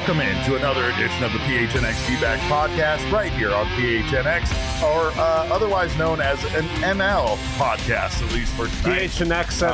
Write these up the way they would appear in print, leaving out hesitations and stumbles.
Welcome in to another edition of the PHNX D-Back podcast right here on PHNX, or otherwise known as an NL podcast, at least for tonight. PHNX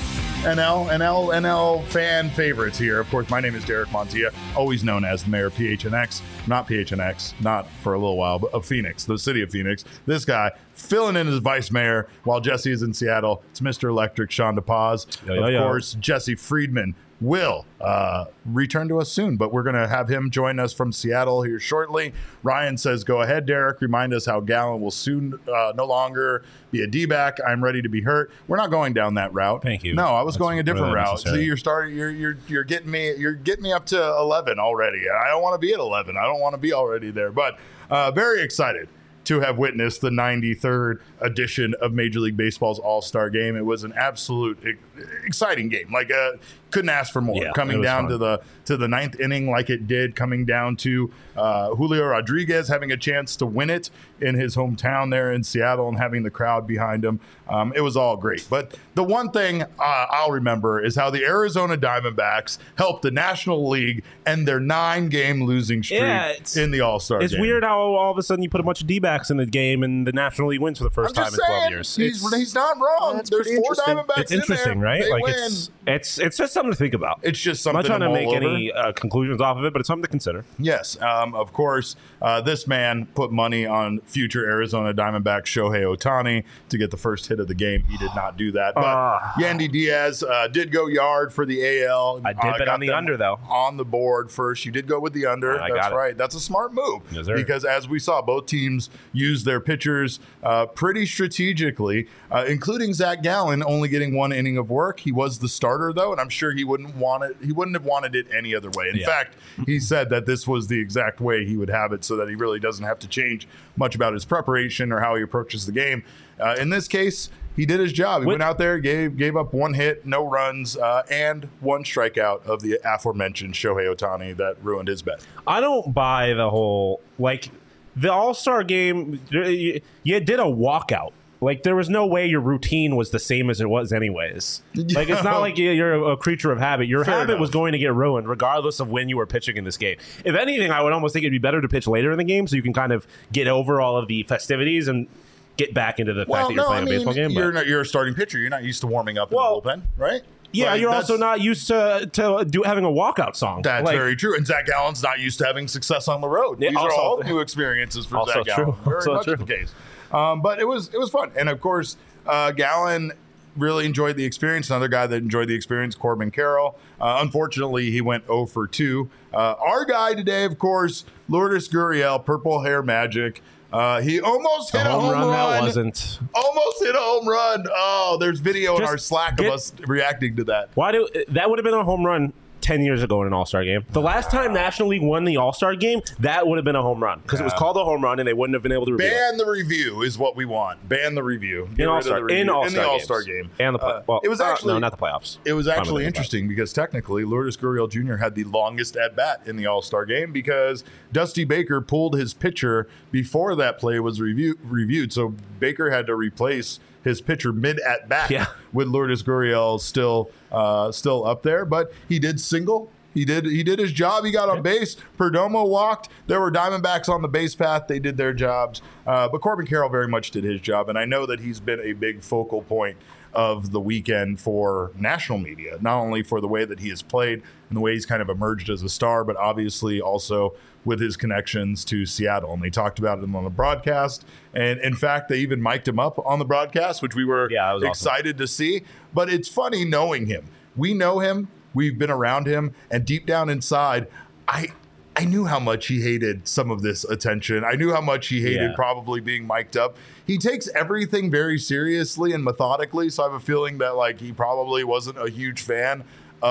NL. NL fan favorites here. Of course, my name is Derek Montilla, always known as the mayor of PHNX. Not PHNX, not for a little while, but of Phoenix, the city of Phoenix. This guy filling in as vice mayor while Jesse is in Seattle. It's Mr. Electric, Sean DePaz. Of course, Jesse Friedman will return to us soon, but we're going to have him join us from Seattle here shortly. Ryan says, go ahead, Derek. Remind us how Gallen will soon no longer be a D-back. I'm ready to be hurt. We're not going down that route. Thank you. No, I was going a different really route. necessary. See, you're getting me up to 11 already. I don't want to be at 11. I don't want to be already there, but very excited to have witnessed the 93rd edition of Major League Baseball's All-Star Game. It was an absolute exciting game. Like, couldn't ask for more. Yeah, coming down fun. to the ninth inning like it did, coming down to Julio Rodriguez having a chance to win it in his hometown there in Seattle and having the crowd behind him. It was all great. But the one thing I'll remember is how the Arizona Diamondbacks helped the National League end their 9-game losing streak in the All-Star game. It's weird how all of a sudden you put a bunch of D-backs in the game and the National League wins for the first time in 12 years. He's not wrong. There's 4 Diamondbacks It's interesting, in there. right? They like win. it's just something to think about. It's just something. I'm not trying to make over. any conclusions off of it, but it's something to consider. Yes, of course. This man put money on future Arizona Diamondback Shohei Ohtani to get the first hit of the game. He did not do that. But Yandy Diaz did go yard for the AL. I did bet on the under, though. On the board first. You did go with the under. That's right. That's a smart move. Yes, sir. Because as we saw, both teams used their pitchers pretty strategically, including Zach Gallen only getting 1 inning of work. He was the starter, though, and I'm sure he wouldn't have wanted it any other way. In fact, he said that this was the exact way he would have it so that he really doesn't have to change much about his preparation or how he approaches the game. In this case, he did his job. He went out there, gave up 1 hit, no runs, and 1 strikeout of the aforementioned Shohei Ohtani that ruined his bet. I don't buy the whole, like, the All-Star game, you did a walkout. Like, there was no way your routine was the same as it was anyways. Like, it's not like you're a creature of habit. Your habit was going to get ruined regardless of when you were pitching in this game. If anything, I would almost think it'd be better to pitch later in the game so you can kind of get over all of the festivities and get back into the fact that you're playing a baseball game. You're a starting pitcher. You're not used to warming up in the bullpen, right? Yeah, you're also not used to having a walkout song. That's very true. And Zach Gallen's not used to having success on the road. These are all new experiences for Zach Gallen. Very much the case. But it was fun. And, of course, Gallen really enjoyed the experience. Another guy that enjoyed the experience, Corbin Carroll. Unfortunately, he went 0 for 2. Our guy today, of course, Lourdes Gurriel, Purple Hair Magic. He almost hit a home run. That wasn't. Almost hit a home run. Oh, there's video in our Slack of us reacting to that. That would have been a home run 10 years ago in an All-Star game. The last time National League won the All-Star game, that would have been a home run because it was called a home run and they wouldn't have been able to review it. Ban the review is what we want. Ban the review. In the All-Star game. And the it was actually no, not the playoffs. It was actually interesting because technically Lourdes Gurriel Jr. had the longest at-bat in the All-Star game because Dusty Baker pulled his pitcher before that play was reviewed. So Baker had to replace his pitcher mid at bat with Lourdes Gurriel still up there, but he did single. He did his job. He got on base. Perdomo walked. There were Diamondbacks on the base path. They did their jobs, but Corbin Carroll very much did his job, and I know that he's been a big focal point of the weekend for national media, not only for the way that he has played and the way he's kind of emerged as a star, but obviously also with his connections to Seattle. And they talked about him on the broadcast. And in fact, they even mic'd him up on the broadcast, which we were excited to see. But it's funny knowing him. We know him. We've been around him. And deep down inside, I knew how much he hated some of this attention. I knew how much he hated probably being mic'd up. He takes everything very seriously and methodically. So I have a feeling that like he probably wasn't a huge fan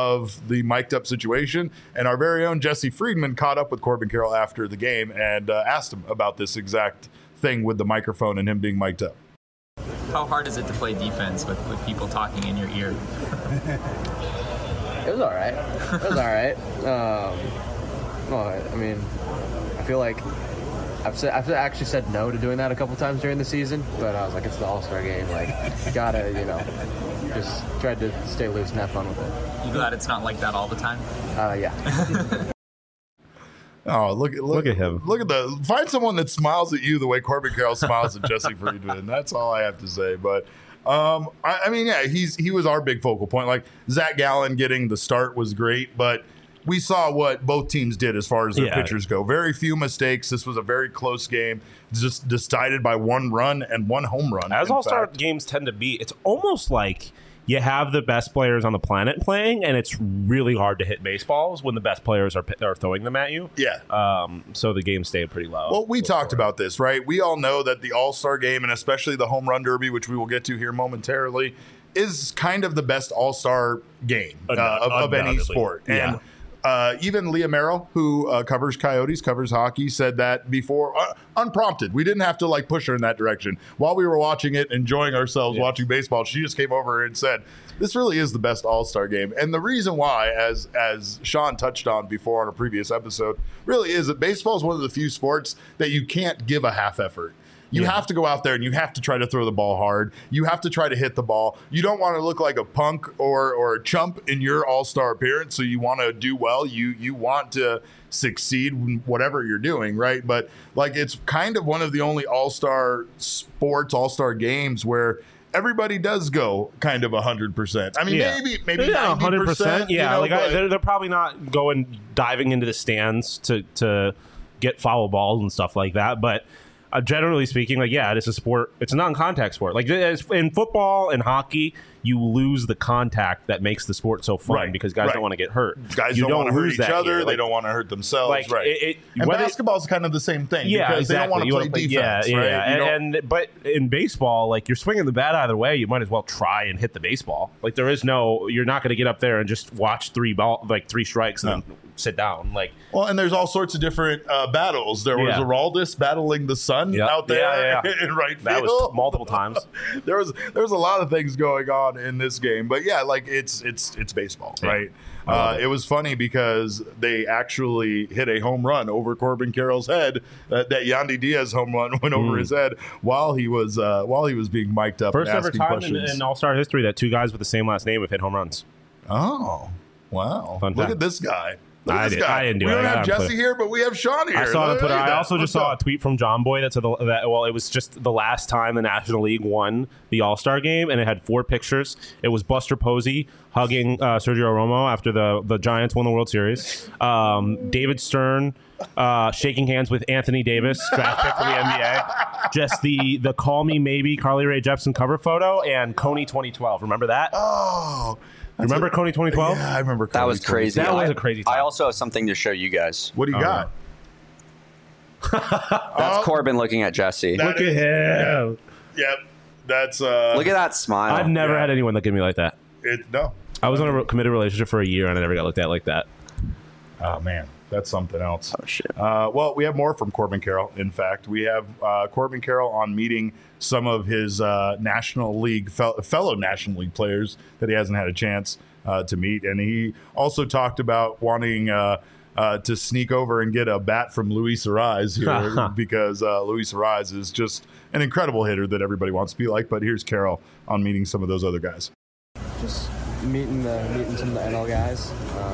of the mic'd up situation. And our very own Jesse Friedman caught up with Corbin Carroll after the game and asked him about this exact thing with the microphone and him being mic'd up. How hard is it to play defense with people talking in your ear? It was all right. I mean, I feel like I've actually said no to doing that a couple times during the season, but I was like, it's the All-Star game. Like, you gotta, just tried to stay loose and have fun with it. You glad it's not like that all the time? Yeah. Oh, look at him. Look at find someone that smiles at you the way Corbin Carroll smiles at Jesse Friedman. That's all I have to say. But I mean, yeah, he was our big focal point. Like Zach Gallen getting the start was great, but we saw what both teams did as far as their pitchers go. Very few mistakes. This was a very close game, just decided by one run and one home run. As all-star games tend to be, it's almost like you have the best players on the planet playing, and it's really hard to hit baseballs when the best players are throwing them at you. Yeah. So the game stayed pretty low. Well, we talked about this, right? We all know that the All-Star game, and especially the Home Run Derby, which we will get to here momentarily, is kind of the best All-Star game of any sport. Yeah. And even Leah Merrill, who covers Coyotes, covers hockey, said that before, unprompted. We didn't have to like push her in that direction. While we were watching it, enjoying ourselves watching baseball, she just came over and said, this really is the best All-Star game. And the reason why, as Sean touched on before on a previous episode, really is that baseball is one of the few sports that you can't give a half effort. You have to go out there and you have to try to throw the ball hard. You have to try to hit the ball. You don't want to look like a punk or a chump in your all-star appearance, so you want to do well. You want to succeed in whatever you're doing, right? But like it's kind of one of the only all-star sports, all-star games where everybody does go kind of 100%. I mean, maybe 90%. Yeah, you know, they're probably not diving into the stands to get foul balls and stuff like that, but generally speaking, like, yeah, it is a sport. It's a non-contact sport. Like in football and hockey, you lose the contact that makes the sport so fun because guys don't want to get hurt. Guys don't want to hurt each other. They don't want to hurt themselves. Like, right. And basketball is kind of the same thing. Yeah, because exactly. They don't want to play defense. Right? But in baseball, like you're swinging the bat either way, you might as well try and hit the baseball. Like you're not going to get up there and just watch three strikes and then sit down. Like, well, and there's all sorts of different battles. There was Aroldis battling the sun out there in right field. That was multiple times. there was a lot of things going on in this game, but yeah, like it's baseball, right? It was funny because they actually hit a home run over Corbin Carroll's head. That Yandy Diaz home run went over his head while he was being mic'd up. First and ever asking time questions. in All-Star history that two guys with the same last name have hit home runs. Oh, wow! Fun Look fact. at this guy. I didn't do it. We don't have Jesse here, but we have Sean here. I saw it on Twitter. I also just saw a tweet from John Boy that said it was just the last time the National League won the All-Star game, and it had 4 pictures. It was Buster Posey hugging Sergio Romo after the Giants won the World Series. David Stern shaking hands with Anthony Davis, draft pick for the NBA. Just the Call Me Maybe Carly Rae Jepsen cover photo, and Coney 2012. Remember that? Oh. Remember Coney 2012? Yeah, I remember. That was crazy. That was a crazy time. I also have something to show you guys. What do you got? That's Corbin looking at Jesse. Look at him. Yep. That's Look at that smile. I've never had anyone look at me like that. No. I was in a committed relationship for a year and I never got looked at like that. Oh man, that's something else. Oh shit. Well, we have more from Corbin Carroll. In fact, we have Corbin Carroll on meeting some of his National League fellow National League players that he hasn't had a chance to meet, and he also talked about wanting to sneak over and get a bat from Luis Arraez here because Luis Arraez is just an incredible hitter that everybody wants to be like. But here's Carroll on meeting some of those other guys. Just meeting some of the NL guys.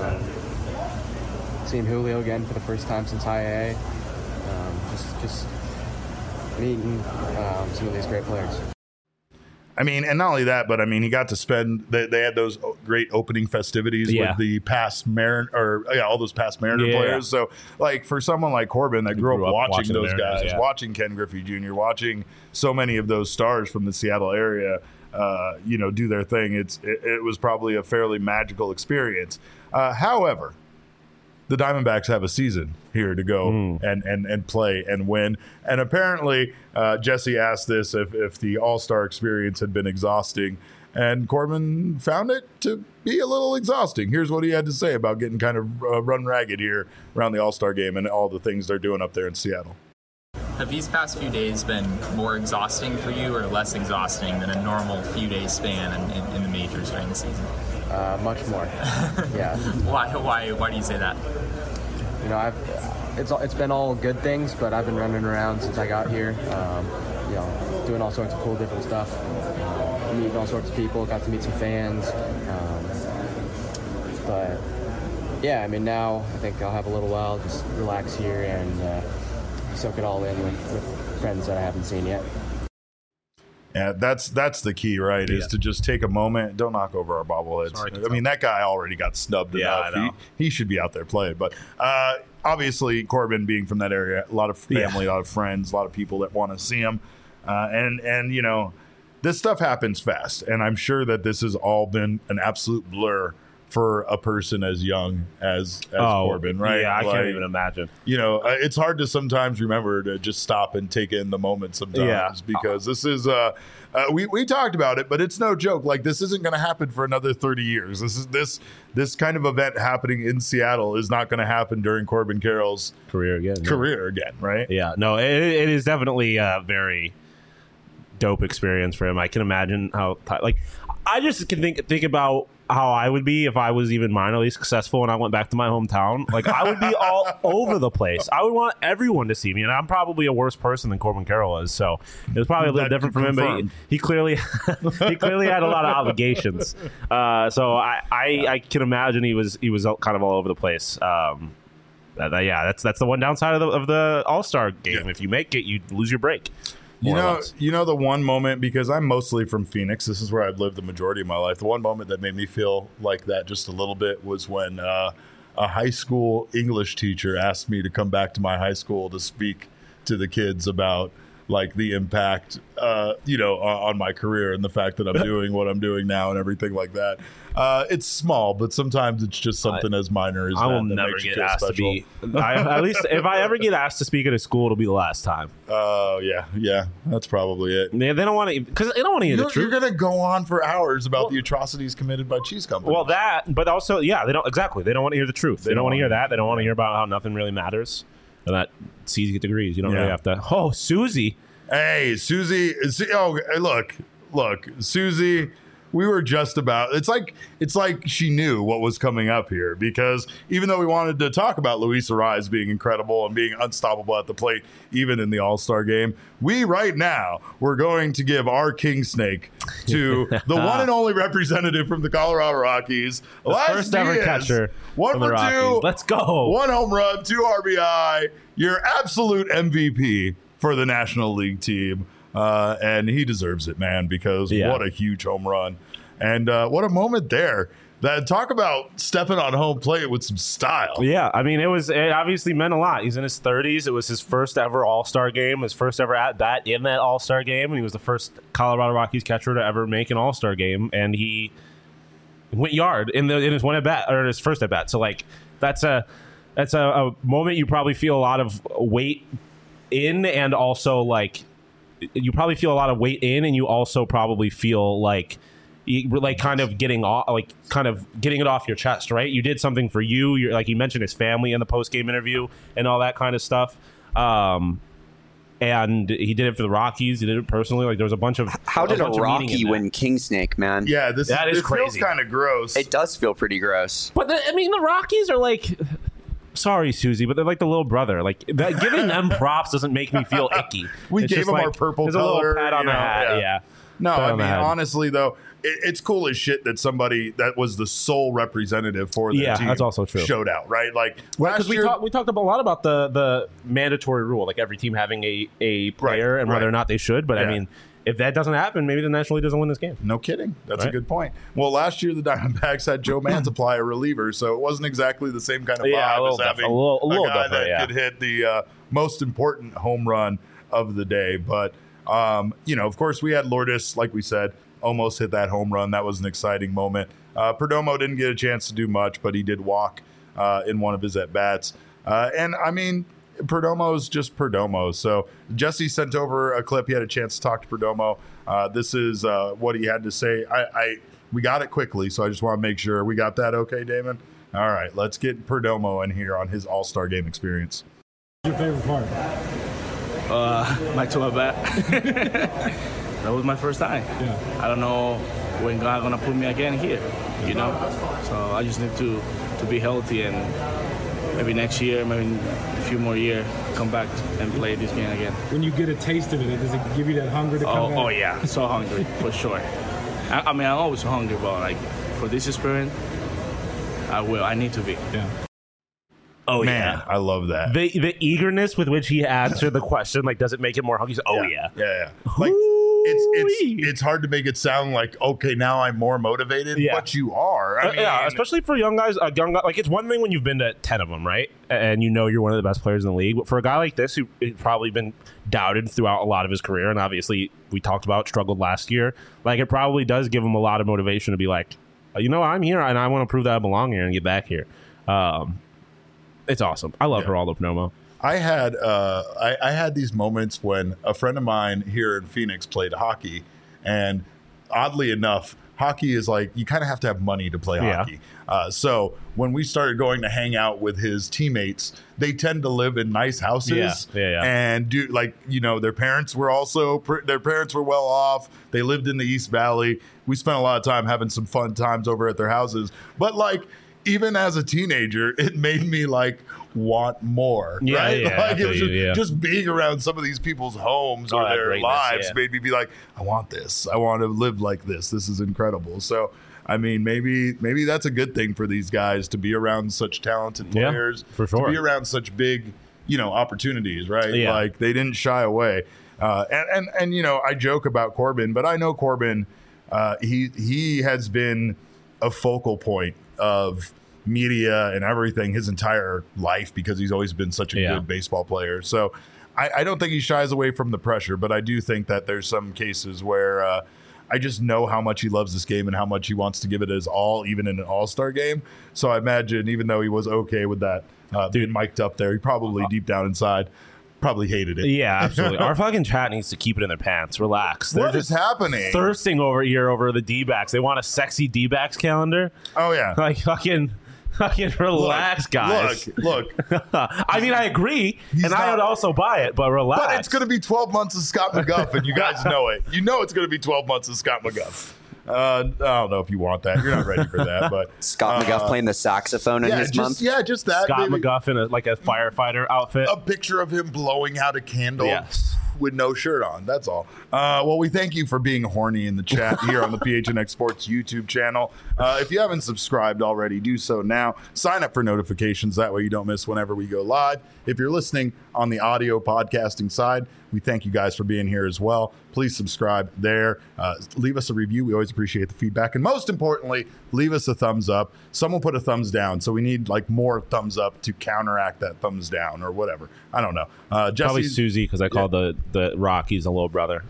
Seeing Julio again for the first time since high A. Just meeting some of these great players. I mean, and not only that, but I mean, he got to spend. They had those great opening festivities with the past Mariner, all those past Mariner players. So, like for someone like Corbin that grew up watching those guys, watching Ken Griffey Jr., watching so many of those stars from the Seattle area, do their thing. It was probably a fairly magical experience. However, the Diamondbacks have a season here to go and play and win. And apparently, Jesse asked this if the All-Star experience had been exhausting, and Corbin found it to be a little exhausting. Here's what he had to say about getting kind of run ragged here around the All-Star game and all the things they're doing up there in Seattle. Have these past few days been more exhausting for you or less exhausting than a normal few day span in the majors during the season? Much more. Yeah. Why do you say that? You know, it's been all good things, but I've been running around since I got here. Doing all sorts of cool different stuff. Meeting all sorts of people. Got to meet some fans. But yeah, I mean, now I think I'll have a little while, just relax here and soak it all in with friends that I haven't seen yet. Yeah, that's the key, right? Is to just take a moment. Don't knock over our bobbleheads. I mean, that guy already got snubbed enough. He should be out there playing. But obviously, Corbin being from that area, a lot of family, a lot of friends, a lot of people that want to see him. And you know, this stuff happens fast. And I'm sure that this has all been an absolute blur for a person as young as Corbin, right? Yeah, I can't even imagine. You know, it's hard to sometimes remember to just stop and take in the moment sometimes because this is we talked about it, but it's no joke. Like, this isn't going to happen for another 30 years. This kind of event happening in Seattle is not going to happen during Corbin Carroll's career again, right? Yeah, no, it is definitely a very dope experience for him. I can imagine how, like, I just can think about how I would be if I was even minorly successful and I went back to my hometown. Like, I would be all over the place. I would want everyone to see me, and I'm probably a worse person than Corbin Carroll is, so it was probably a little different from him, but he clearly had a lot of obligations. So I can imagine he was kind of all over the place. That's the one downside of the All-Star game. Yeah. If you make it, you lose your break. You know the one moment, because I'm mostly from Phoenix, this is where I've lived the majority of my life. The one moment that made me feel like that just a little bit was when a high school English teacher asked me to come back to my high school to speak to the kids about like the impact, on my career and the fact that I'm doing what I'm doing now and everything like that. It's small, but sometimes it's just something as minor as I will never get asked to be. At least if I ever get asked to speak at a school, it'll be the last time. Oh yeah, that's probably it. Yeah, they don't want to, because they don't want to hear the truth. You're going to go on for hours about the atrocities committed by cheese companies. Well, that, but also, yeah, they don't want to hear the truth. They don't want to hear that. They don't want to hear about how nothing really matters. And that it's easy to get degrees. You don't really have to. Oh, Susie. Hey, Susie. Oh, look, Susie. We were just about. It's like she knew what was coming up here, because even though we wanted to talk about Luis Arraez being incredible and being unstoppable at the plate, even in the All-Star game, we're going to give our king snake to the one and only representative from the Colorado Rockies, the first ever catcher. 1 for 2. Let's go. 1 home run, 2 RBI. Your absolute MVP for the National League team. And he deserves it, man, because what a huge home run. And what a moment there. Talk about stepping on home plate with some style. Yeah, I mean, it obviously meant a lot. He's in his 30s. It was his first ever All-Star game, his first ever at-bat in that All-Star game. And he was the first Colorado Rockies catcher to ever make an All-Star game. And he went yard in his one at-bat, or his first at-bat. So, like, that's a moment you probably feel a lot of weight in, and also, like, you probably feel a lot of weight in, and you also probably feel like kind of getting it off your chest, right? You did something for you. You're, like, you mentioned his family in the post-game interview and all that kind of stuff. And he did it for the Rockies. He did it personally. Like, there was a bunch of. How did a Rocky win King Snake, man? Yeah, this is crazy. Feels kind of gross. It does feel pretty gross. But the Rockies are like. Sorry, Susie, but they're like the little brother. Like, giving them props doesn't make me feel icky. We gave them our purple color. There's a little pat on the hat. Yeah. No, I mean, honestly, though, it's cool as shit that somebody that was the sole representative for the team that's also true. Showed out, right? Like, because we talked a lot about the mandatory rule, like every team having a player and whether or not they should. But I mean, if that doesn't happen, maybe the National League doesn't win this game. No kidding. That's a good point. Well, last year the Diamondbacks had Joe Manzaply, a reliever, so it wasn't exactly the same kind of vibe as having a guy that could hit the most important home run of the day. But, of course, we had Lourdes, like we said, almost hit that home run. That was an exciting moment. Perdomo didn't get a chance to do much, but he did walk in one of his at-bats. And, I mean, Perdomo's just Perdomo. So Jesse sent over a clip. He had a chance to talk to Perdomo. This is what he had to say. We got it quickly, so I just want to make sure we got that okay, Damon? All right, let's get Perdomo in here on his All-Star game experience. What's your favorite part? My tour bat. That was my first time. Yeah. I don't know when God gonna put me again here, So I just need to be healthy, and maybe next year, maybe a few more years, come back and play this game again. When you get a taste of it, does it give you that hunger to come back? Oh yeah, so hungry, for sure. I mean, I'm always hungry, but like for this experience, I will. I need to be. Yeah. Oh, Man, yeah. I love that. The eagerness with which he answered the question, like, does it make it more hungry? Oh, yeah. Yeah. Like, it's hard to make it sound like, okay, now I'm more motivated, but you are. I mean, yeah, especially for young guys. Like, it's one thing when you've been to 10 of them, right? And you know you're one of the best players in the league. But for a guy like this who has probably been doubted throughout a lot of his career, and obviously we talked about struggled last year, like, it probably does give him a lot of motivation to be like, you know, I'm here and I want to prove that I belong here and get back here. It's awesome. I love Geraldo Perdomo. I had these moments when a friend of mine here in Phoenix played hockey, and oddly enough, hockey is like you kind of have to have money to play hockey. So when we started going to hang out with his teammates, they tend to live in nice houses, and do like their parents were well off. They lived in the East Valley. We spent a lot of time having some fun times over at their houses, but like. Even as a teenager, it made me like want more. Right? Like it was just being around some of these people's homes or their lives made me be like, I want this. I want to live like this. This is incredible. So, I mean, maybe that's a good thing for these guys to be around such talented players, for sure. To be around such big, opportunities, right? Yeah. Like they didn't shy away. And I joke about Corbin, but I know Corbin. He has been a focal point of media and everything his entire life because he's always been such a good baseball player. So I don't think he shies away from the pressure, but I do think that there's some cases where I just know how much he loves this game and how much he wants to give it his all, even in an all-star game. So I imagine even though he was okay with that being mic'd up there, he probably deep down inside probably hated it. Yeah, absolutely. Our fucking chat needs to keep it in their pants. Relax. They're what is happening? Thirsting over the D-backs. They want a sexy D-backs calendar. Oh, yeah. Like, fucking relax, guys. Look. I mean, I agree, I would also buy it, but relax. But it's going to be 12 months of Scott McGuff, and you guys know it. You know it's going to be 12 months of Scott McGuff. I don't know if you want that. You're not ready for that. But Scott McGuff playing the saxophone in his month. Yeah, just that. Scott McGuff in a firefighter outfit. A picture of him blowing out a candle with no shirt on. That's all. Well, we thank you for being horny in the chat here on the PHNX Sports YouTube channel. If you haven't subscribed already, do so now. Sign up for notifications. That way you don't miss whenever we go live. If you're listening on the audio podcasting side, we thank you guys for being here as well. Please subscribe there. Leave us a review. We always appreciate the feedback. And most importantly, leave us a thumbs up. Someone put a thumbs down, so we need like more thumbs up to counteract that thumbs down or whatever. I don't know. Probably Susie, because I called the Rockies a little brother.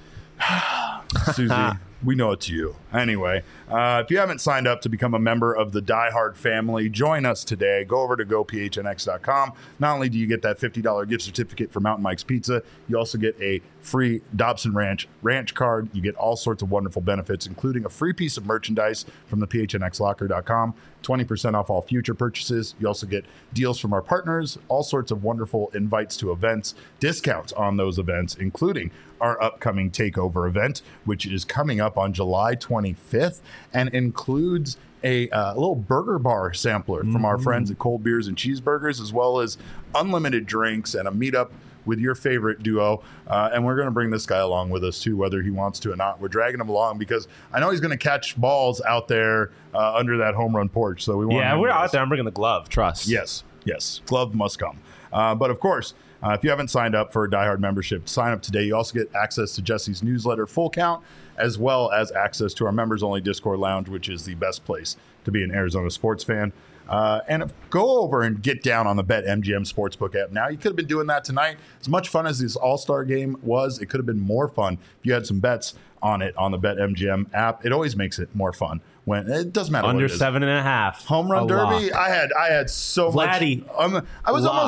Susie, we know it's you. Anyway, if you haven't signed up to become a member of the Die Hard family, join us today. Go over to gophnx.com. Not only do you get that $50 gift certificate for Mountain Mike's Pizza, you also get a free Dobson Ranch card. You get all sorts of wonderful benefits, including a free piece of merchandise from the phnxlocker.com, 20% off all future purchases. You also get deals from our partners, all sorts of wonderful invites to events, discounts on those events, including our upcoming takeover event, which is coming up on July 25th and includes a little burger bar sampler from our friends at Cold Beers and Cheeseburgers, as well as unlimited drinks and a meetup with your favorite duo. And we're going to bring this guy along with us too, whether he wants to or not. We're dragging him along because I know he's going to catch balls out there under that home run porch. So we want we're out there. I'm bringing the glove. Trust. Yes. Glove must come. But of course, if you haven't signed up for a Die Hard membership, sign up today. You also get access to Jesse's newsletter, Full Count, as well as access to our members-only Discord lounge, which is the best place to be an Arizona sports fan. And go over and get down on the BetMGM Sportsbook app now. You could have been doing that tonight. As much fun as this All-Star game was, it could have been more fun if you had some bets on it on the BetMGM app. It always makes it more fun when it doesn't matter. Under what it is. 7.5 home run derby. Lock. I had so Vladdy, much. I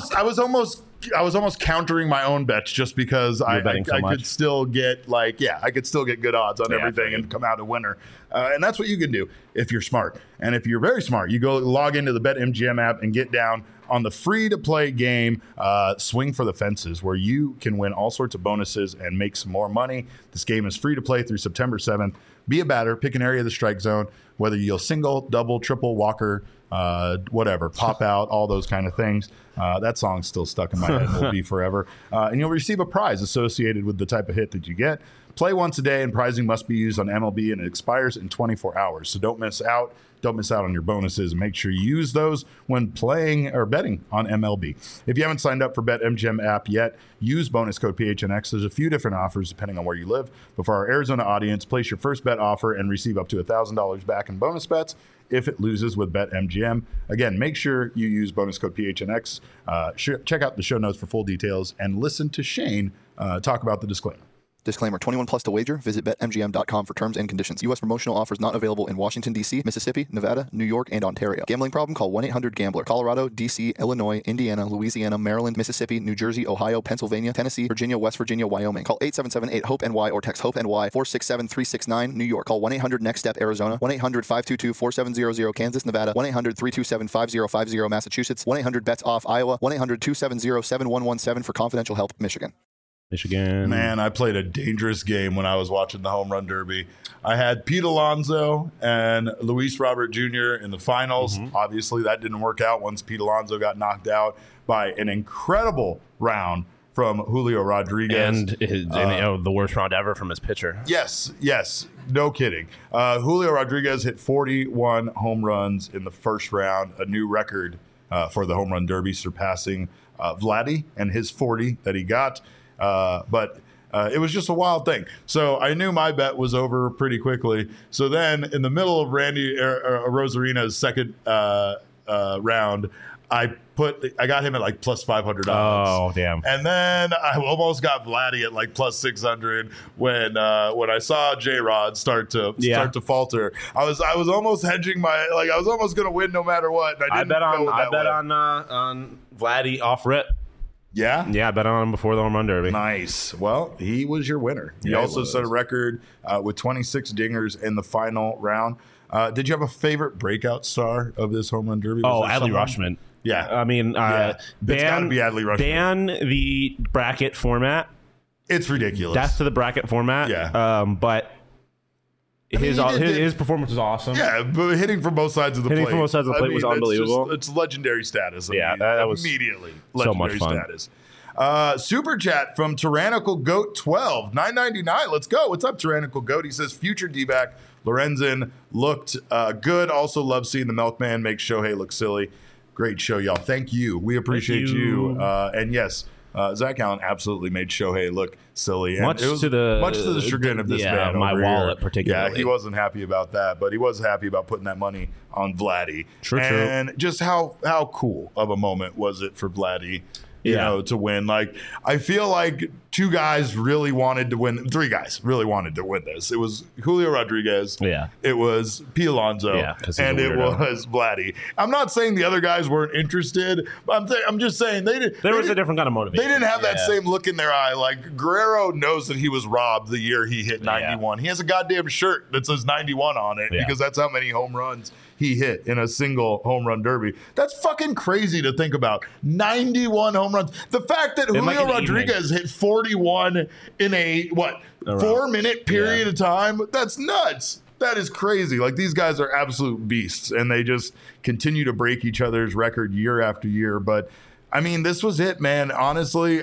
was almost countering my own bets just because I could still get I could still get good odds on everything and come out a winner. And that's what you can do if you're smart. And if you're very smart, you go log into the BetMGM app and get down on the free-to-play game, Swing for the Fences, where you can win all sorts of bonuses and make some more money. This game is free to play through September 7th. Be a batter, pick an area of the strike zone, whether you'll single, double, triple, walker, whatever, pop out, all those kind of things. That song's still stuck in my head and will be forever. And you'll receive a prize associated with the type of hit that you get. Play once a day, and prizing must be used on MLB, and it expires in 24 hours. So don't miss out. Don't miss out on your bonuses. Make sure you use those when playing or betting on MLB. If you haven't signed up for BetMGM app yet, use bonus code PHNX. There's a few different offers depending on where you live. But for our Arizona audience, place your first bet offer and receive up to $1,000 back in bonus bets if it loses with BetMGM. Again, make sure you use bonus code PHNX. Check out the show notes for full details and listen to Shane talk about the disclaimer. Disclaimer, 21 plus to wager. Visit BetMGM.com for terms and conditions. U.S. promotional offers not available in Washington, D.C., Mississippi, Nevada, New York, and Ontario. Gambling problem? Call 1-800-GAMBLER. Colorado, D.C., Illinois, Indiana, Louisiana, Maryland, Mississippi, New Jersey, Ohio, Pennsylvania, Tennessee, Virginia, West Virginia, Wyoming. Call 877-8-HOPE-NY or text HOPE-NY 467-369, New York. Call 1-800-NEXT-STEP, Arizona. 1-800-522-4700, Kansas, Nevada. 1-800-327-5050, Massachusetts. 1-800-BETS-OFF, Iowa. 1-800-270-7117 for confidential help, Michigan. Man, I played a dangerous game when I was watching the Home Run Derby. I had Pete Alonso and Luis Robert Jr. in the finals. Obviously, that didn't work out once Pete Alonso got knocked out by an incredible round from Julio Rodriguez. And the worst round ever from his pitcher. Yes, no kidding. Julio Rodriguez hit 41 home runs in the first round, a new record for the Home Run Derby, surpassing Vladdy and his 40 that he got. But it was just a wild thing. So I knew my bet was over pretty quickly. So then in the middle of Randy Rosarina's second round, I got him at like plus 500 odds. Oh, damn. And then I almost got Vladdy at like plus 600 when I saw J-Rod start to falter. I was almost hedging I was almost going to win no matter what. And I bet on Vladdy off rip. Yeah? Yeah, I bet on him before the Home Run Derby. Nice. Well, he was your winner. He also set a record with 26 dingers in the final round. Did you have a favorite breakout star of this Home Run Derby? Adley Rutschman. Yeah. I mean, it's got to be Adley Rutschman. Ban the bracket format. It's ridiculous. Death to the bracket format. Yeah. But his performance was awesome. Yeah, but hitting from both sides of the plate. Was unbelievable. It's legendary status. That was immediately so legendary much fun. Status. Super chat from Tyrannical Goat 12, $9.99. Let's go. What's up, Tyrannical Goat? He says future D-back Lorenzen looked good. Also love seeing the Milkman make Shohei look silly. Great show, y'all. Thank you. We appreciate you. And yes, Zach Allen absolutely made Shohei look silly. And much to the chagrin of this man. My wallet, here. particularly. Yeah, he wasn't happy about that, but he was happy about putting that money on Vladdy. True. And just how cool of a moment was it for Vladdy? You know, to win. Like, I feel like three guys really wanted to win this. It was Julio Rodriguez. Yeah. It was Pete Alonso. Yeah, and it was Vladdy. I'm not saying the other guys weren't interested, but I'm just saying there was a different kind of motivation. They didn't have that same look in their eye. Like, Guerrero knows that he was robbed the year he hit 91. He has a goddamn shirt that says 91 on it because that's how many home runs he hit in a single home run derby. That's fucking crazy to think about. 91 home runs. The fact that Julio Rodriguez hit 41 in a 4-minute period of time, that's nuts. That is crazy. Like, these guys are absolute beasts, and they just continue to break each other's record year after year. But I mean, this was it, man. Honestly,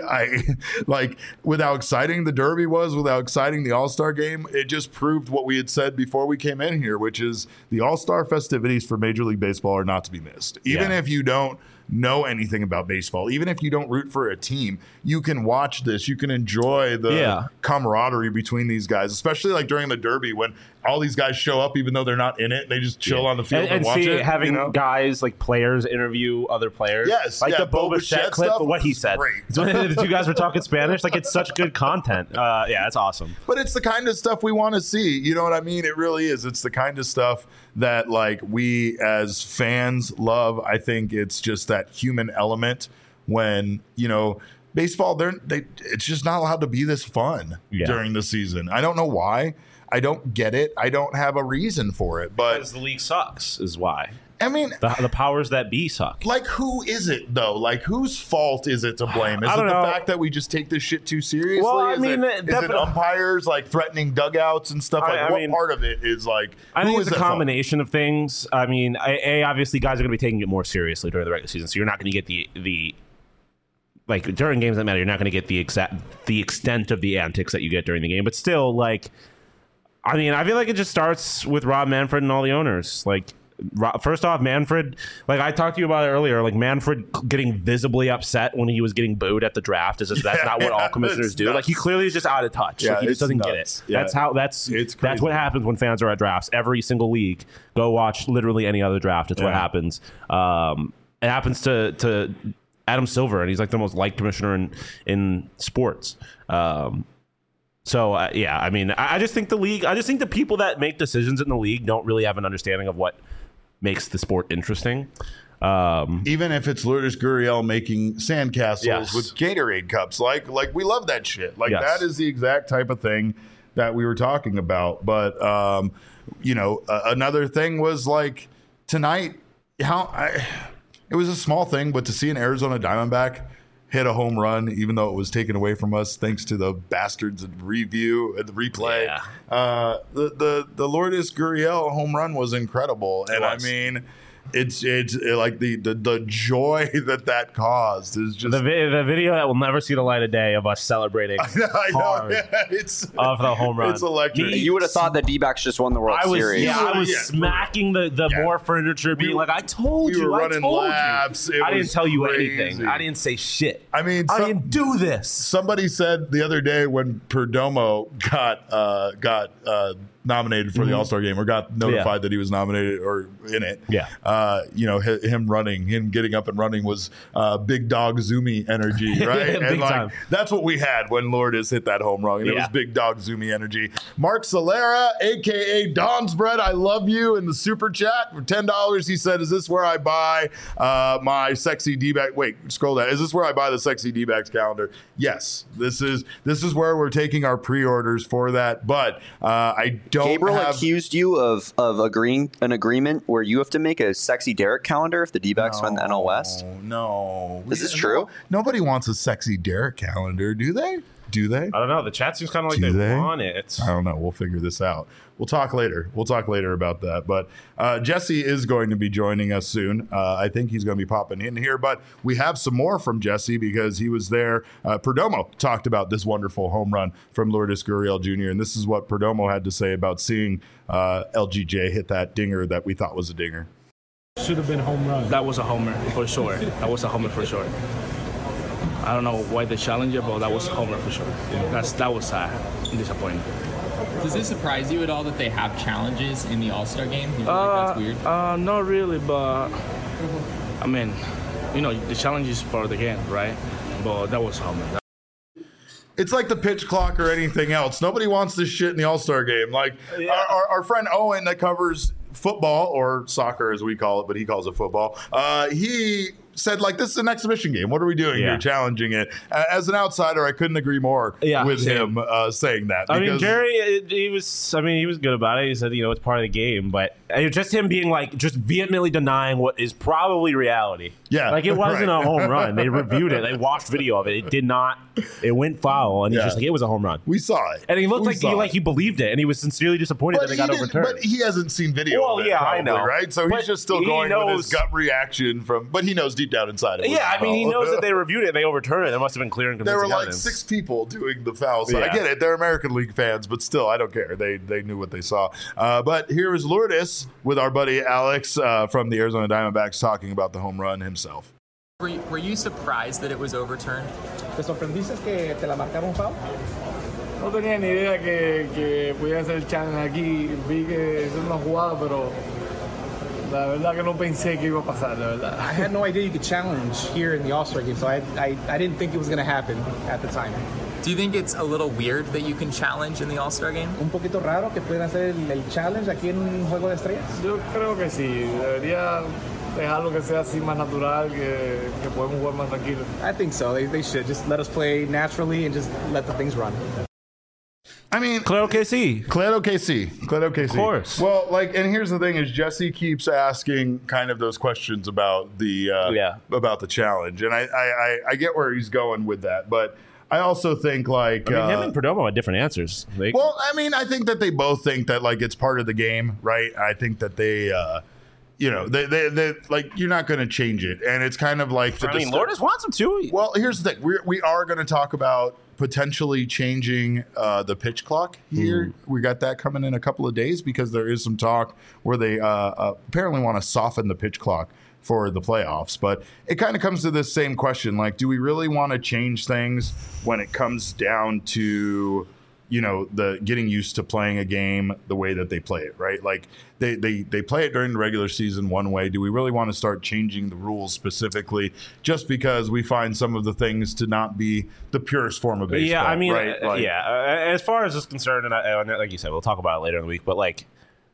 with how exciting the Derby was, with how exciting the All-Star game, it just proved what we had said before we came in here, which is the All-Star festivities for Major League Baseball are not to be missed. Even if you don't know anything about baseball, even if you don't root for a team, you can watch this. You can enjoy the camaraderie between these guys, especially like during the Derby when all these guys show up even though they're not in it. They just chill on the field and watch it. Having guys like players interview other players. Yes. Like the Boba Fett clip of what he said. Great. The two guys were talking Spanish. Like, it's such good content. It's awesome. But it's the kind of stuff we want to see. You know what I mean? It really is. It's the kind of stuff that like we as fans love. I think it's just that human element when, baseball, it's just not allowed to be this fun during the season. I don't know why. I don't get it. I don't have a reason for it. But because the league sucks is why. I mean, the powers that be suck. Like, who is it though? Like, whose fault is it to blame? Is it the fact that we just take this shit too seriously? Well, I is mean, it umpires like threatening dugouts and stuff? Like, what part of it is like? I think it's a combination of things. I mean, obviously guys are going to be taking it more seriously during the regular season, so you're not going to get the like during games that matter. You're not going to get the extent of the antics that you get during the game, but still, like, I mean, I feel like it just starts with Rob Manfred and all the owners, like. First off, Manfred, like I talked to you about it earlier, like Manfred getting visibly upset when he was getting booed at the draft is just that's not what all commissioners do. Nuts. Like he clearly is just out of touch. Yeah, like, he just doesn't get it. Yeah. That's what happens when fans are at drafts. Every single league. Go watch literally any other draft. It's what happens. It happens to Adam Silver, and he's like the most liked commissioner in sports. So I mean, I just think the people that make decisions in the league don't really have an understanding of what makes the sport interesting. Even if it's Lourdes Gurriel making sandcastles with Gatorade cups, like we love that shit. Like that is the exact type of thing that we were talking about. But another thing was like tonight, it was a small thing, but to see an Arizona Diamondback hit a home run, even though it was taken away from us thanks to the bastards at the replay. Yeah. The Lourdes Gurriel home run was incredible, and I mean, it's like the joy that caused is just the video that will never see the light of day of us celebrating. I know. It's of the home run. It's electric. You would have thought the D-backs just won the World Series. Yeah, I was smacking the more furniture, being like, "I told you, I told laps. you." I didn't tell you anything. I didn't say shit. I mean, I didn't do this. Somebody said the other day when Perdomo got nominated for the All-Star game, or got notified that he was nominated or in it. Yeah. Him getting up and running was big dog Zoomy energy, right? And like time. That's what we had when Lourdes hit that home run. And it was big dog Zoomy energy. Mark Solera, aka Don's Bread, I love you, in the super chat for $10. He said, "Is this where I buy my sexy D-back?" Wait, scroll down. "Is this where I buy the sexy D-backs calendar?" Yes, this is where we're taking our pre-orders for that. But I don't. Gabriel accused you of agreeing an agreement where you have to make a sexy Derek calendar if the D-backs win the NL West. No, is this true? Nobody wants a sexy Derek calendar, do they? Do they? I don't know. The chat seems kind of like they want it. I don't know. We'll figure this out. We'll talk later. About that. But Jesse is going to be joining us soon. I think he's going to be popping in here. But we have some more from Jesse because he was there. Perdomo talked about this wonderful home run from Lourdes Gurriel Jr. And this is what Perdomo had to say about seeing LGJ hit that dinger that we thought was a dinger. Should have been a home run. That was a homer for sure. I don't know why they challenged it, but that was a homer for sure. That was sad and disappointing. Does it surprise you at all that they have challenges in the All-Star game? Do you think that's weird? Not really, but I mean, the challenge is part of the game, right? But that was a homer. It's like the pitch clock or anything else. Nobody wants this shit in the All-Star game. Like our friend Owen that covers football, or soccer as we call it, but he calls it football. He said, like, this is an exhibition game. What are we doing here? Challenging it. As an outsider, I couldn't agree more with him saying that. I mean, Jerry, he was good about it. He said, it's part of the game, but just him being like, just vehemently denying what is probably reality. Yeah. Like, it wasn't a home run. They reviewed it. They watched video of it. It went foul, and he's just like, it was a home run. We saw it. And he looked he believed it, and he was sincerely disappointed that it got overturned. But he hasn't seen video of it, probably, I know. Right? So he's just still going with his gut reaction but he knows deep down inside it. Yeah, I mean, he knows that they reviewed it and they overturned it. There must have been clear and convincing evidence. There were evidence. 6 people doing the foul. So I get it. They're American League fans, but still, I don't care. They knew what they saw. But here is Lourdes with our buddy Alex from the Arizona Diamondbacks talking about the home run himself. Were you surprised that it was overturned? ¿Te sorprendiste que te la marcaron foul? No tenía ni idea que podía hacer el challenge aquí. Vi que es una jugada, pero la verdad que no pensé que iba a pasar, la verdad. I had no idea you could challenge here in the All-Star game, so I didn't think it was going to happen at the time. Do you think it's a little weird that you can challenge in the All-Star game? Un poquito raro que puedan hacer el challenge aquí en un Juego de Estrellas. Yo creo que sí. Debería dejarlo que sea así más natural, que podemos jugar más tranquilos. I think so. They should just let us play naturally and just let the things run. I mean, Clear OKC. Of course. Well, and here's the thing: is Jesse keeps asking kind of those questions about the about the challenge, and I get where he's going with that, but I also think him and Perdomo had different answers. I think that they both think that it's part of the game, right? I think that they. They you're not going to change it, and it's kind of like Lourdes wants them to. Well, here's the thing: we are going to talk about potentially changing the pitch clock here. We got that coming in a couple of days because there is some talk where they apparently want to soften the pitch clock for the playoffs. But it kind of comes to this same question: do we really want to change things when it comes down to the getting used to playing a game the way that they play it, right? They play it during the regular season one way. Do we really want to start changing the rules specifically just because we find some of the things to not be the purest form of baseball? Yeah, right? As far as this is concerned, and like you said, we'll talk about it later in the week, but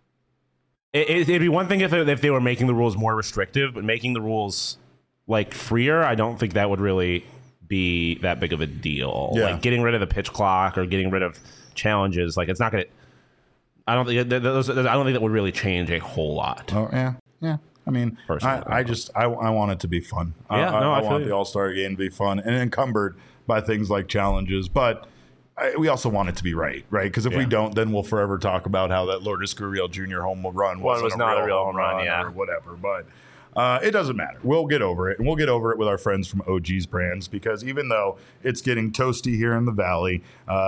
it'd be one thing if they were making the rules more restrictive, but making the rules freer, I don't think that would really be that big of a deal. Getting rid of the pitch clock or getting rid of challenges, it's not gonna. I don't think that would really change a whole lot. Oh yeah. I mean, I want it to be fun. I want the All-Star game to be fun and encumbered by things like challenges, but we also want it to be right? Because if we don't, then we'll forever talk about how that Lourdes Gurriel Jr. home run was not a real home run, or whatever, but. It doesn't matter. We'll get over it. And we'll get over it with our friends from OG's Brands because even though it's getting toasty here in the Valley,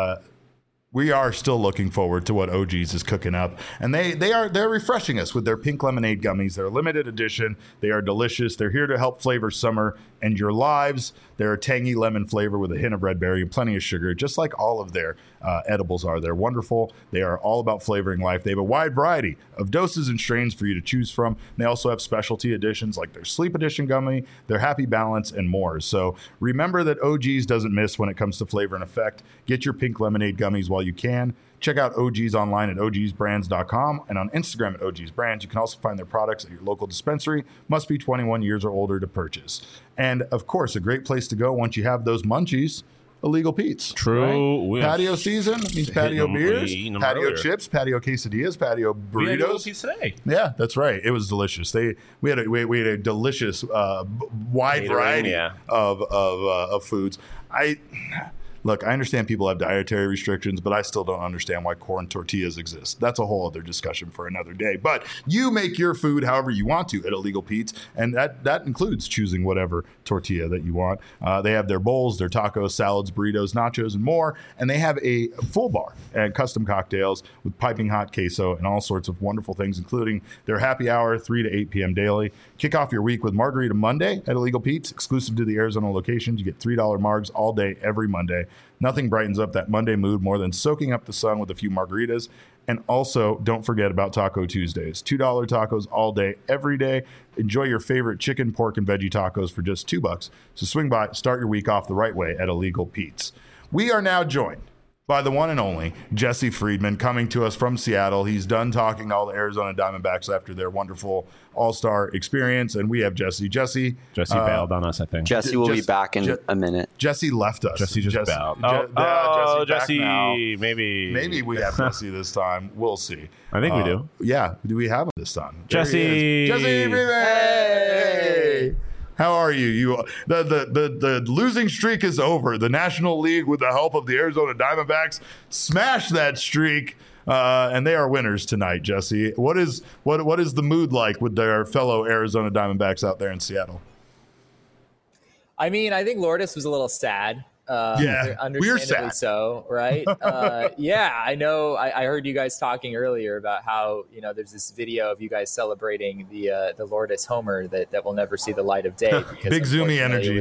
we are still looking forward to what OG's is cooking up. And they're refreshing us with their pink lemonade gummies. They're limited edition. They are delicious. They're here to help flavor summer and your lives. They're a tangy lemon flavor with a hint of red berry and plenty of sugar, just like all of their edibles are. They're wonderful. They are all about flavoring life. They have a wide variety of doses and strains for you to choose from. They also have specialty editions like their Sleep Edition gummy, their Happy Balance, and more. So remember that OG's doesn't miss when it comes to flavor and effect. Get your pink lemonade gummies while you can. Check out OG's online at ogsbrands.com and on Instagram at OG's Brands. You can also find their products at your local dispensary. Must be 21 years or older to purchase. And, of course, a great place to go once you have those munchies, Illegal Pete's. True. Right? Patio season means patio beers, patio chips, patio quesadillas, patio burritos. We had Illegal Pete's today. Yeah, that's right. It was delicious. We had a delicious wide variety of foods. Look, I understand people have dietary restrictions, but I still don't understand why corn tortillas exist. That's a whole other discussion for another day. But you make your food however you want to at Illegal Pete's, and that includes choosing whatever tortilla that you want. They have their bowls, their tacos, salads, burritos, nachos, and more. And they have a full bar and custom cocktails with piping hot queso and all sorts of wonderful things, including their happy hour, 3 to 8 p.m. daily. Kick off your week with Margarita Monday at Illegal Pete's, exclusive to the Arizona locations. You get $3 margs all day, every Monday. Nothing brightens up that Monday mood more than soaking up the sun with a few margaritas. And also, don't forget about Taco Tuesdays. $2 tacos all day, every day. Enjoy your favorite chicken, pork, and veggie tacos for just $2. So swing by, start your week off the right way at Illegal Pete's. We are now joined by the one and only Jesse Friedman, coming to us from Seattle. He's done talking to all the Arizona Diamondbacks after their wonderful All-Star experience, and we have Jesse. Jesse bailed on us, I think. Jesse will be back in a minute. Jesse left us. Jesse just bailed. Jesse, maybe we have Jesse this time. We'll see. I think we do. Yeah, do we have him this time? Jesse Friedman! Hey! How are you? The losing streak is over. The National League, with the help of the Arizona Diamondbacks, smashed that streak, and they are winners tonight. Jesse, what is the mood like with their fellow Arizona Diamondbacks out there in Seattle? I mean, I think Lourdes was a little sad. We're sad. So, right? I know. I heard you guys talking earlier about how, there's this video of you guys celebrating the Lourdes homer that will never see the light of day. Big zoomy energy.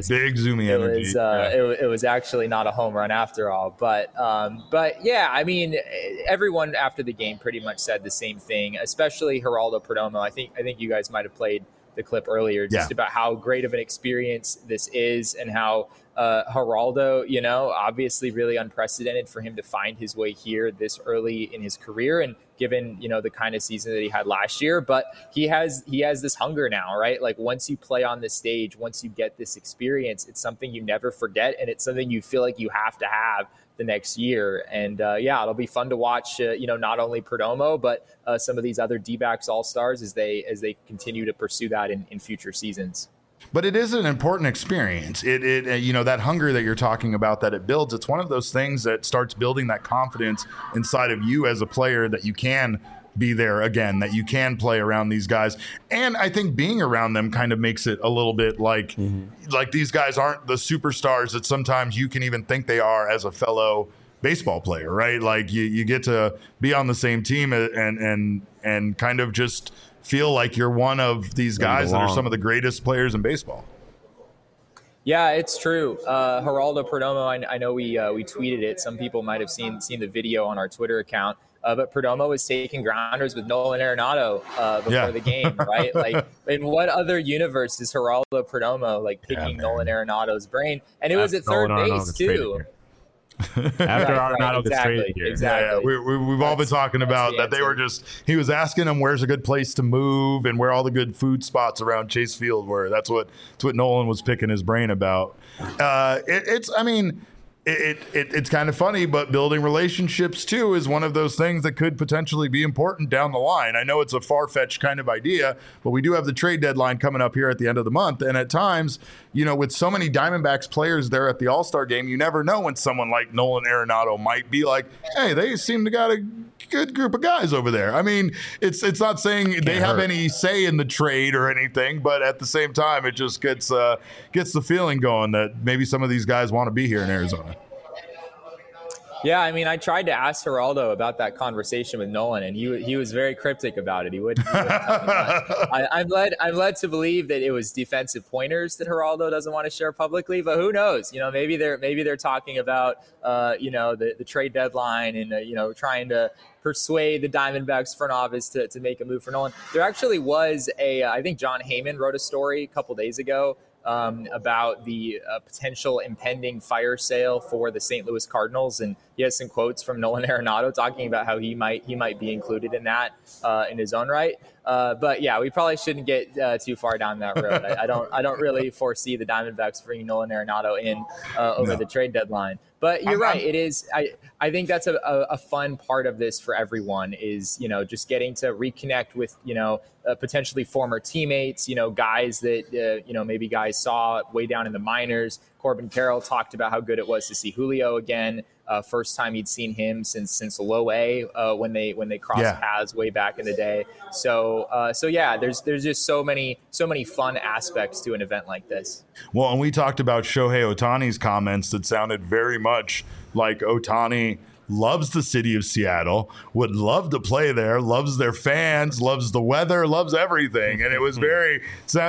It was actually not a home run after all. But yeah, I mean, everyone after the game pretty much said the same thing, especially Geraldo Perdomo. I think you guys might have played the clip earlier just about how great of an experience this is and how Geraldo, obviously really unprecedented for him to find his way here this early in his career, and given, the kind of season that he had last year. But he has this hunger now, right? Like once you play on this stage, once you get this experience, it's something you never forget, and it's something you feel like you have to have the next year. And it'll be fun to watch, not only Perdomo, but some of these other D-backs all-stars as they continue to pursue that in future seasons. But it is an important experience. It that hunger that you're talking about that it builds, it's one of those things that starts building that confidence inside of you as a player that you can be there again, that you can play around these guys. And I think being around them kind of makes it a little bit like these guys aren't the superstars that sometimes you can even think they are as a fellow baseball player, right? Like you get to be on the same team and kind of just feel like you're one of these guys that are some of the greatest players in baseball. Yeah, it's true. Geraldo Perdomo, I know we tweeted it. Some people might have seen the video on our Twitter account. But Perdomo was taking grounders with Nolan Arenado before the game, right? Like, in what other universe is Geraldo Perdomo picking Nolan Arenado's brain? And it was at third base too. After Arenado gets traded here. Exactly. Yeah, we've all been talking about that. They were he was asking him where's a good place to move and where all the good food spots around Chase Field were. That's what Nolan was picking his brain about. It's kind of funny, but building relationships too is one of those things that could potentially be important down the line. I know it's a far-fetched kind of idea, but we do have the trade deadline coming up here at the end of the month. And at times, with so many Diamondbacks players there at the All-Star game, you never know when someone like Nolan Arenado might be like, hey, they seem to got a good group of guys over there. I mean, it's not saying they have any say in the trade or anything, but at the same time, it just gets the feeling going that maybe some of these guys want to be here in Arizona. Yeah, I mean, I tried to ask Geraldo about that conversation with Nolan, and he was very cryptic about it. He wouldn't tell me much. I'm led to believe that it was defensive pointers that Geraldo doesn't want to share publicly, but who knows? Maybe they're talking about the trade deadline and trying to persuade the Diamondbacks front office to make a move for Nolan. There actually was I think John Heyman wrote a story a couple days ago about the potential impending fire sale for the St. Louis Cardinals, and he has some quotes from Nolan Arenado talking about how he might be included in that in his own right. But yeah, we probably shouldn't get too far down that road. I don't really foresee the Diamondbacks bringing Nolan Arenado in over the trade deadline. But you're right. It is. I think that's a fun part of this for everyone is, just getting to reconnect with, potentially former teammates, guys that, maybe guys saw way down in the minors. Corbin Carroll talked about how good it was to see Julio again. First time he'd seen him since Low A when they crossed paths way back in the day. So yeah, there's just so many fun aspects to an event like this. Well, and we talked about Shohei Ohtani's comments that sounded very much like Ohtani loves the city of Seattle, would love to play there, loves their fans, loves the weather, loves everything. And it was very,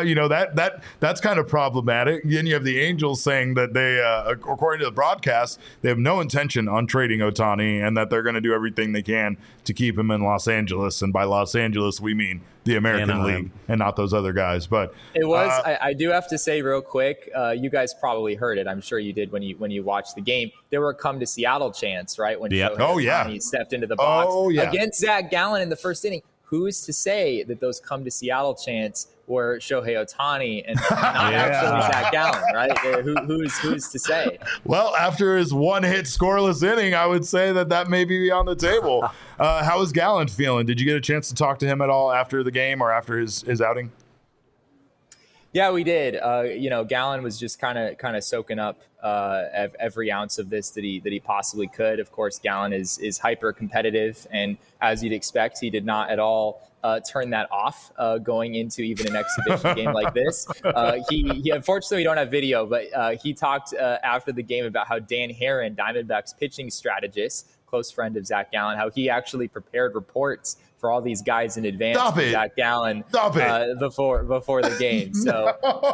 that's kind of problematic. Then you have the Angels saying that they, according to the broadcast, they have no intention on trading Ohtani and that they're going to do everything they can to keep him in Los Angeles. And by Los Angeles, we mean the American League and not those other guys. But it was, I do have to say real quick, you guys probably heard it. I'm sure you did when you watched the game. There were come to Seattle chants, right? When Shohei stepped into the box against Zach Gallen in the first inning. Who's to say that those come to Seattle chants were Shohei Ohtani and not actually Zach Gallen, right? Who's to say? Well, after his one-hit scoreless inning, I would say that may be on the table. How is Gallen feeling? Did you get a chance to talk to him at all after the game or after his outing? Yeah, we did. Gallen was just kind of soaking up every ounce of this that he possibly could. Of course, Gallen is hyper competitive, and as you'd expect, he did not at all turn that off going into even an exhibition game like this. He unfortunately we don't have video, but he talked after the game about how Dan Herron, Diamondbacks pitching strategist, close friend of Zach Gallen, how he actually prepared reports for all these guys in advance for Zach Gallen before the game. So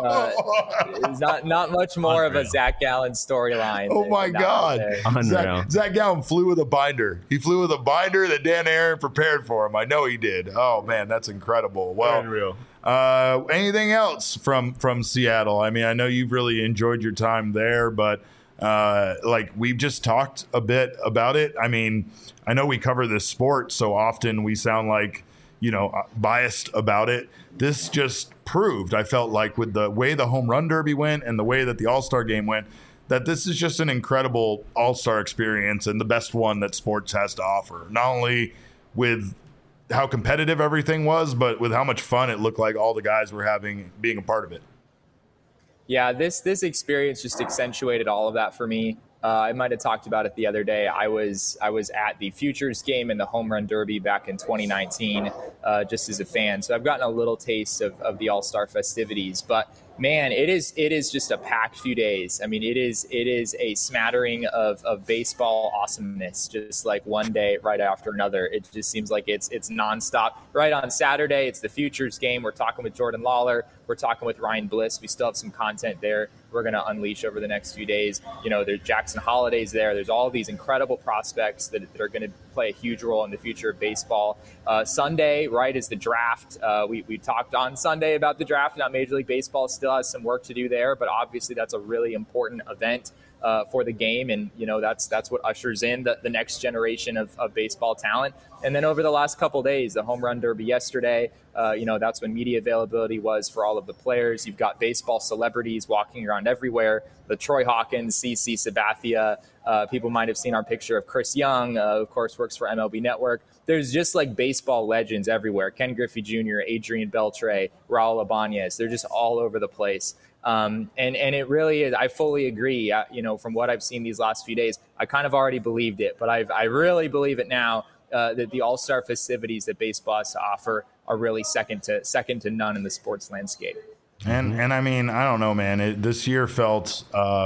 it's not much more of a Zach Gallen storyline. Oh my God. Zach Gallen flew with a binder. He flew with a binder that Dan Aaron prepared for him. I know he did. Oh man, that's incredible. Well, unreal. Anything else from Seattle? I mean, I know you've really enjoyed your time there, but like we've just talked a bit about it. I mean, I know we cover this sport so often we sound like, biased about it. This just proved, I felt like, with the way the home run derby went and the way that the All-Star game went, that this is just an incredible All-Star experience and the best one that sports has to offer. Not only with how competitive everything was, but with how much fun it looked like all the guys were having being a part of it. Yeah, this experience just accentuated all of that for me. I might have talked about it the other day. I was at the Futures game and the Home Run Derby back in 2019, just as a fan. So I've gotten a little taste of the All-Star festivities. But man, it is just a packed few days. I mean, it is a smattering of baseball awesomeness, just like one day right after another. It just seems like it's nonstop. Right on Saturday, it's the Futures game. We're talking with Jordan Lawler. We're talking with Ryan Bliss. We still have some content there we're going to unleash over the next few days. There's Jackson Holliday's there. There's all these incredible prospects that are going to play a huge role in the future of baseball. Sunday, right, is the draft. We talked on Sunday about the draft. Now, Major League Baseball still has some work to do there, but obviously that's a really important event for the game, and that's what ushers in the next generation of baseball talent. And then over the last couple of days, the Home Run Derby yesterday, that's when media availability was for all of the players. You've got baseball celebrities walking around everywhere. The Troy Hawkins, CC Sabathia. People might have seen our picture of Chris Young, of course, works for MLB Network. There's just like baseball legends everywhere. Ken Griffey Jr., Adrian Beltre, Raul Ibanez. They're just all over the place. And it really is. I fully agree. From what I've seen these last few days, I kind of already believed it, but I really believe it now. That the All-Star festivities that baseball has to offer are really second to none in the sports landscape. And I mean, I don't know, man. This year felt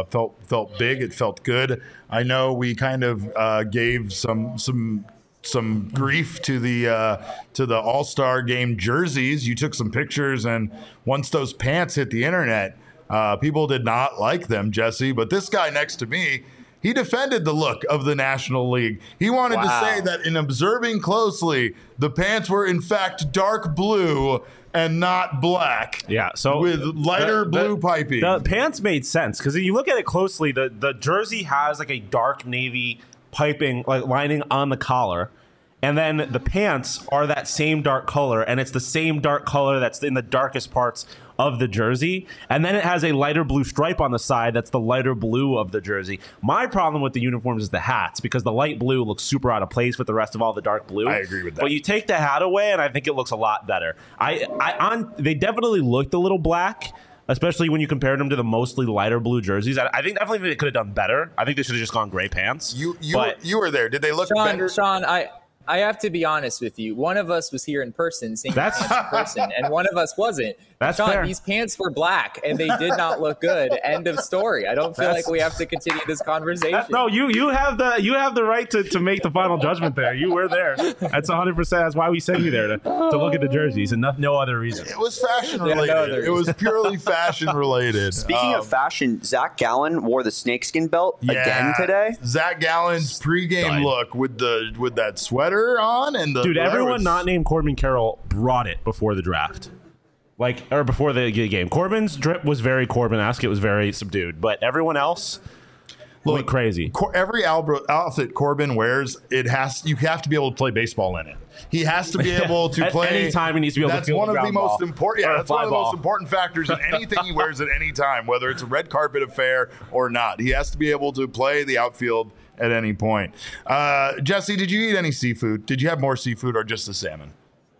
big. It felt good. I know we kind of gave some grief to the All-Star game jerseys. You took some pictures, and once those pants hit the internet, people did not like them, Jesse. But this guy next to me, he defended the look of the National League. He wanted to say that in observing closely, the pants were in fact dark blue and not black. Yeah, so with lighter blue piping. The pants made sense because if you look at it closely, the jersey has like a dark navy piping like lining on the collar. And then the pants are that same dark color, and it's the same dark color that's in the darkest parts of the jersey. And then it has a lighter blue stripe on the side that's the lighter blue of the jersey. My problem with the uniforms is the hats, because the light blue looks super out of place with the rest of all the dark blue. I agree with that. But you take the hat away, and I think it looks a lot better. They definitely looked a little black, especially when you compared them to the mostly lighter blue jerseys. I think definitely they could have done better. I think they should have just gone gray pants. You were there. Did they look better? Sean, I have to be honest with you. One of us was here in person, seeing the pants in person, and one of us wasn't. That's Sean, fair. These pants were black, and they did not look good. End of story. I don't feel like we have to continue this conversation. No, you have the right to make the final judgment there. You were there. That's 100%. That's why we sent you there to look at the jerseys, and no other reason. It was fashion related. It was purely fashion related. Speaking of fashion, Zach Gallen wore the snakeskin belt again today. Zach Gallen's pregame look with that sweater on and the everyone not named Corbin Carroll brought it before the draft. Or before the game. Corbin's drip was very Corbin-esque. It was very subdued. But everyone else went crazy. Every outfit Corbin wears, you have to be able to play baseball in it. He has to be able to play. At any time, he needs to be able to field the ground ball. That's one of the most important factors in anything he wears at any time, whether it's a red carpet affair or not. He has to be able to play the outfield at any point. Jesse, did you eat any seafood? Did you have more seafood or just the salmon?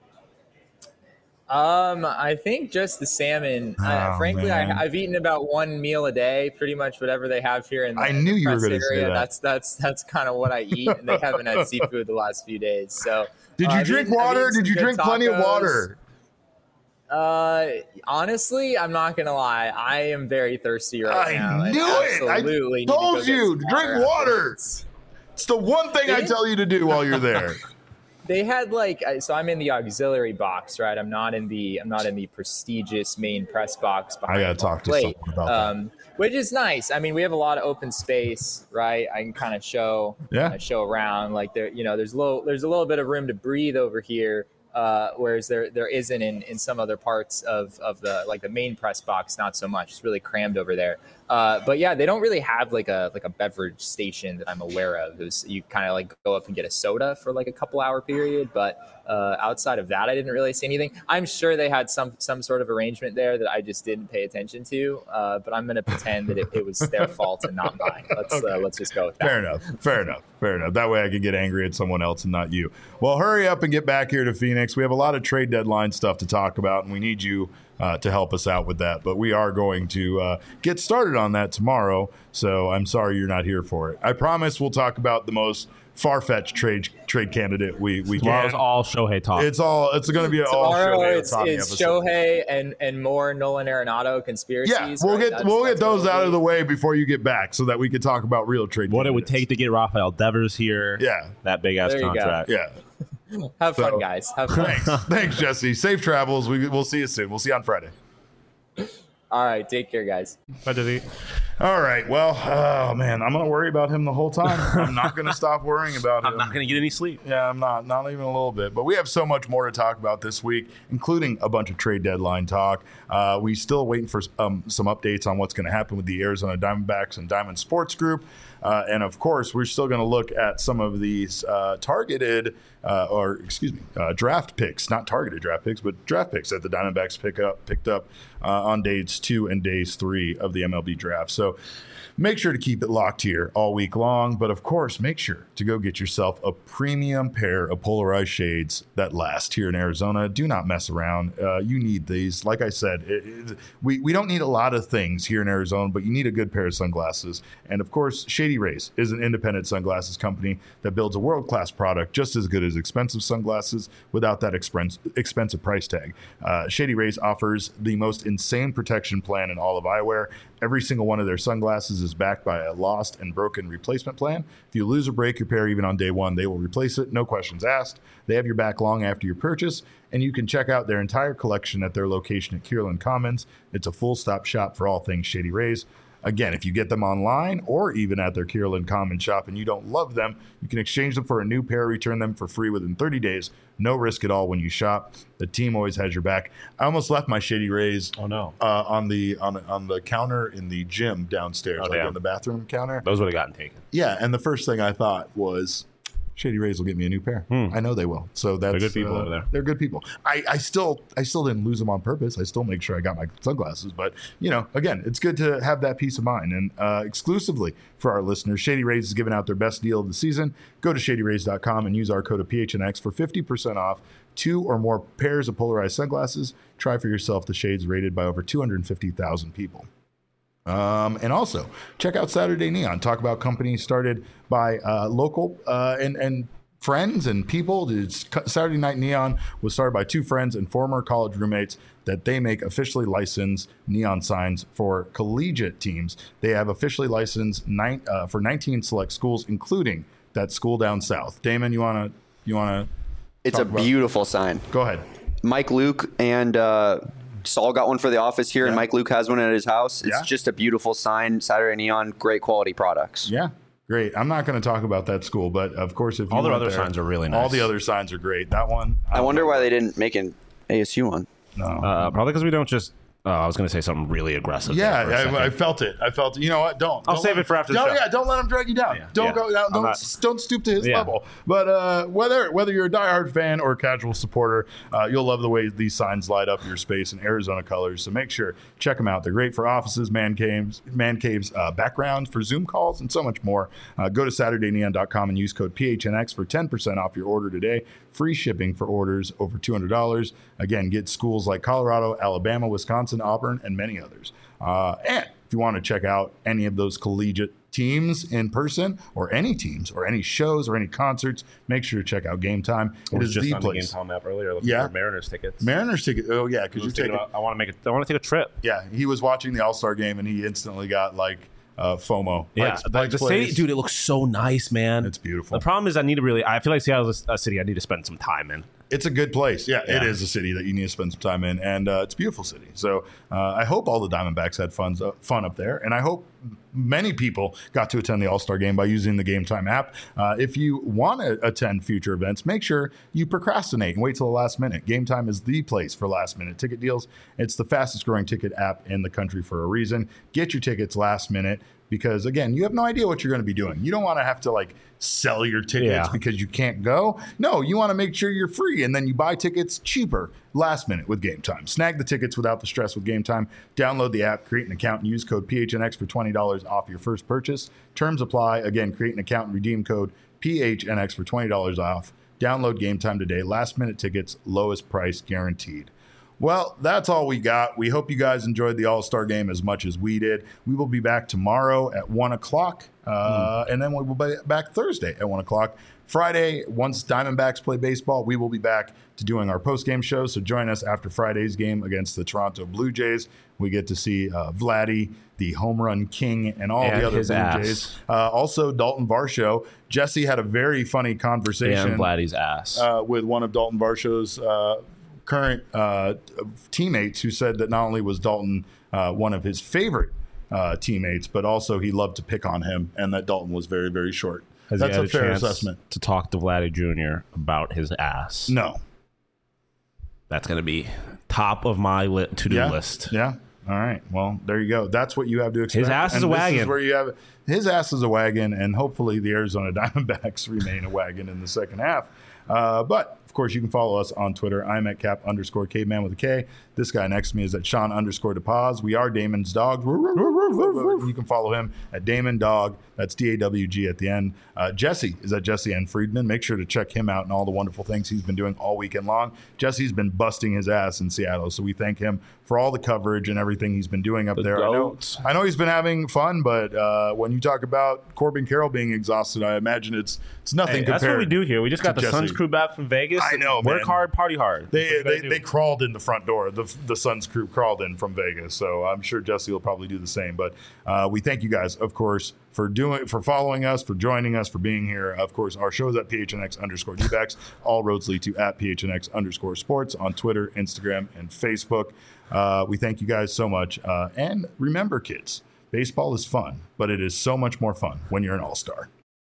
I think just the salmon. Frankly, I've eaten about one meal a day, pretty much whatever they have here in the I knew you were going to say that. That's kind of what I eat, and they haven't had seafood the last few days. So, did you drink water? Did you drink plenty of water? Honestly, I'm not gonna lie. I am very thirsty right now. I knew it. I told you to drink water. It's It's the one thing I tell you to do while you're there. They had so I'm in the auxiliary box, right? I'm not in the prestigious main press box. I gotta talk to someone about that. Which is nice. I mean, we have a lot of open space, right? I can kind of show around. Like there's a little bit of room to breathe over here. Whereas there isn't in some other parts of the main press box, not so much. It's really crammed over there. But yeah, they don't really have like a beverage station that I'm aware of. You kind of go up and get a soda for a couple hour period. But outside of that, I didn't really see anything. I'm sure they had some sort of arrangement there that I just didn't pay attention to. But I'm going to pretend that it was their fault and not mine. Let's just go with that. Fair enough. That way I could get angry at someone else and not you. Well, hurry up and get back here to Phoenix. We have a lot of trade deadline stuff to talk about, and we need you to help us out with that. But we are going to get started on that tomorrow, so I'm sorry you're not here for it. I promise we'll talk about the most far-fetched trade candidate we Tomorrow's can. all Shohei talk. It's going to be all Shohei. It's episode. Shohei and more Nolan Arenado conspiracies. Yeah, we'll get those out of the way before you get back, so that we could talk about real trade. What it would take to get Rafael Devers here. Yeah, that big ass contract. Yeah. Have fun, guys. Have fun. Thanks, Jesse. Safe travels. We'll see you soon. We'll see you on Friday. All right. Take care, guys. Bye, Dizzy. All right. Well, oh, man, I'm going to worry about him the whole time. I'm not going to stop worrying about him. I'm not going to get any sleep. Yeah, I'm not even a little bit. But we have so much more to talk about this week, including a bunch of trade deadline talk. We still waiting for some updates on what's going to happen with the Arizona Diamondbacks and Diamond Sports Group. And of course, we're still going to look at some of these targeted draft picks, not targeted draft picks, but draft picks that the Diamondbacks picked up on days 2 and days 3 of the MLB draft. So make sure to keep it locked here all week long. But of course, make sure to go get yourself a premium pair of polarized shades that last here in Arizona. Do not mess around. You need these. Like I said, we don't need a lot of things here in Arizona, but you need a good pair of sunglasses. And of course, Shady Rays is an independent sunglasses company that builds a world-class product just as good as expensive sunglasses without that expensive price tag. Shady Rays offers the most insane protection plan in all of eyewear. Every single one of their sunglasses is backed by a lost and broken replacement plan. If you lose or break your pair even on day 1, they will replace it, no questions asked. They have your back long after your purchase, and you can check out their entire collection at their location at Kierland Commons. It's a full-stop shop for all things Shady Rays. Again, if you get them online or even at their Kierland Commons shop and you don't love them, you can exchange them for a new pair, return them for free within 30 days. No risk at all when you shop. The team always has your back. I almost left my Shady Rays on the counter in the gym downstairs, on the bathroom counter. Those would have gotten taken. Yeah, and the first thing I thought was, Shady Rays will get me a new pair. I know they will. So that's they're good people over there. They're good people. I still didn't lose them on purpose. I still make sure I got my sunglasses. But again, it's good to have that peace of mind. And exclusively for our listeners, Shady Rays is giving out their best deal of the season. Go to ShadyRays.com and use our code of PHNX for 50% off 2 or more pairs of polarized sunglasses. Try for yourself the shades rated by over 250,000 people. And also check out Saturday Neon. Talk about companies started by local and friends and people. Saturday Night Neon was started by 2 friends and former college roommates that they make officially licensed neon signs for collegiate teams. They have officially licensed for 19 select schools, including that school down south. Damon, you wanna? It's a beautiful sign. Go ahead. Mike Luke and Saul got one for the office here, and Mike Luke has one at his house. It's just a beautiful sign. Saturday Neon, great quality products. Yeah, great. I'm not going to talk about that school, but of course, if all their other signs are really nice. All the other signs are great. That one. I wonder why they didn't make an ASU one. No, probably because we don't just. I was going to say something really aggressive. Yeah, I felt it. You know what? I'll save it for after the show. Yeah, don't let him drag you down. Don't go down. Don't stoop to his level. But whether you're a diehard fan or a casual supporter, you'll love the way these signs light up your space in Arizona colors. So make sure check them out. They're great for offices, man caves, backgrounds for Zoom calls, and so much more. Go to SaturdayNeon.com and use code PHNX for 10% off your order today. Free shipping for orders over $200. Again, get schools like Colorado, Alabama, Wisconsin, Auburn, and many others. And if you want to check out any of those collegiate teams in person, or any teams, or any shows, or any concerts, make sure to check out Game Time. It is the place. The Game Time app earlier looking for Mariners tickets. Mariners tickets. Oh yeah, because you're taking. I want to take a trip. Yeah, he was watching the All-Star game and he instantly got FOMO. Yeah, Pikes the Place. city, dude, it looks so nice, man. It's beautiful. The problem is I feel like Seattle is a city I need to spend some time in. It's a good place. Yeah, it is a city that you need to spend some time in, and it's a beautiful city. So I hope all the Diamondbacks had fun up there, and I hope many people got to attend the All-Star Game by using the Game Time app. If you want to attend future events, make sure you procrastinate and wait till the last minute. Game Time is the place for last-minute ticket deals. It's the fastest-growing ticket app in the country for a reason. Get your tickets last minute. Because, again, you have no idea what you're going to be doing. You don't want to have to, sell your tickets because you can't go. No, you want to make sure you're free, and then you buy tickets cheaper last minute with Game Time. Snag the tickets without the stress with Game Time. Download the app, create an account, and use code PHNX for $20 off your first purchase. Terms apply. Again, create an account and redeem code PHNX for $20 off. Download Game Time today. Last-minute tickets, lowest price guaranteed. Well, that's all we got. We hope you guys enjoyed the All-Star Game as much as we did. We will be back tomorrow at 1 o'clock, and then we will be back Thursday at 1 o'clock. Friday, once Diamondbacks play baseball, we will be back to doing our post-game show. So join us after Friday's game against the Toronto Blue Jays. We get to see Vladdy, the home run king, and all the other Blue Jays. Also, Dalton Varsho. Jesse had a very funny conversation Vladdy's ass. With one of Dalton Varsho's current teammates, who said that not only was Dalton one of his favorite teammates, but also he loved to pick on him, and that Dalton was very, very short. That's a fair assessment. To talk to Vladdy Jr. about his ass. No. That's going to be top of my to-do list. Yeah. All right. Well, there you go. That's what you have to expect. His ass is a wagon. This is where you have his ass is a wagon, and hopefully the Arizona Diamondbacks remain a wagon in the second half. But of course, you can follow us on Twitter. I'm at Cap_Caveman with a K. This guy next to me is at Sean_DePaz. We are Damon's Dogs. You can follow him at Damon Dog. That's DAWG at the end. Jesse is at Jesse N. Friedman. Make sure to check him out and all the wonderful things he's been doing all weekend long. Jesse's been busting his ass in Seattle, so we thank him for all the coverage and everything he's been doing up there. I know he's been having fun, but when you talk about Corbin Carroll being exhausted, I imagine it's nothing compared. That's what we do here. We just got the Jesse. Suns crew back from Vegas. I know, Work hard, party hard. They crawled in the front door. The Suns crew crawled in from Vegas, so I'm sure Jesse will probably do the same. But we thank you guys, of course, for following us, for joining us, for being here. Of course, our show is at PHNX_DBacks. All roads lead to at PHNX_sports on Twitter, Instagram, and Facebook. We thank you guys so much. And remember, kids, baseball is fun, but it is so much more fun when you're an all-star.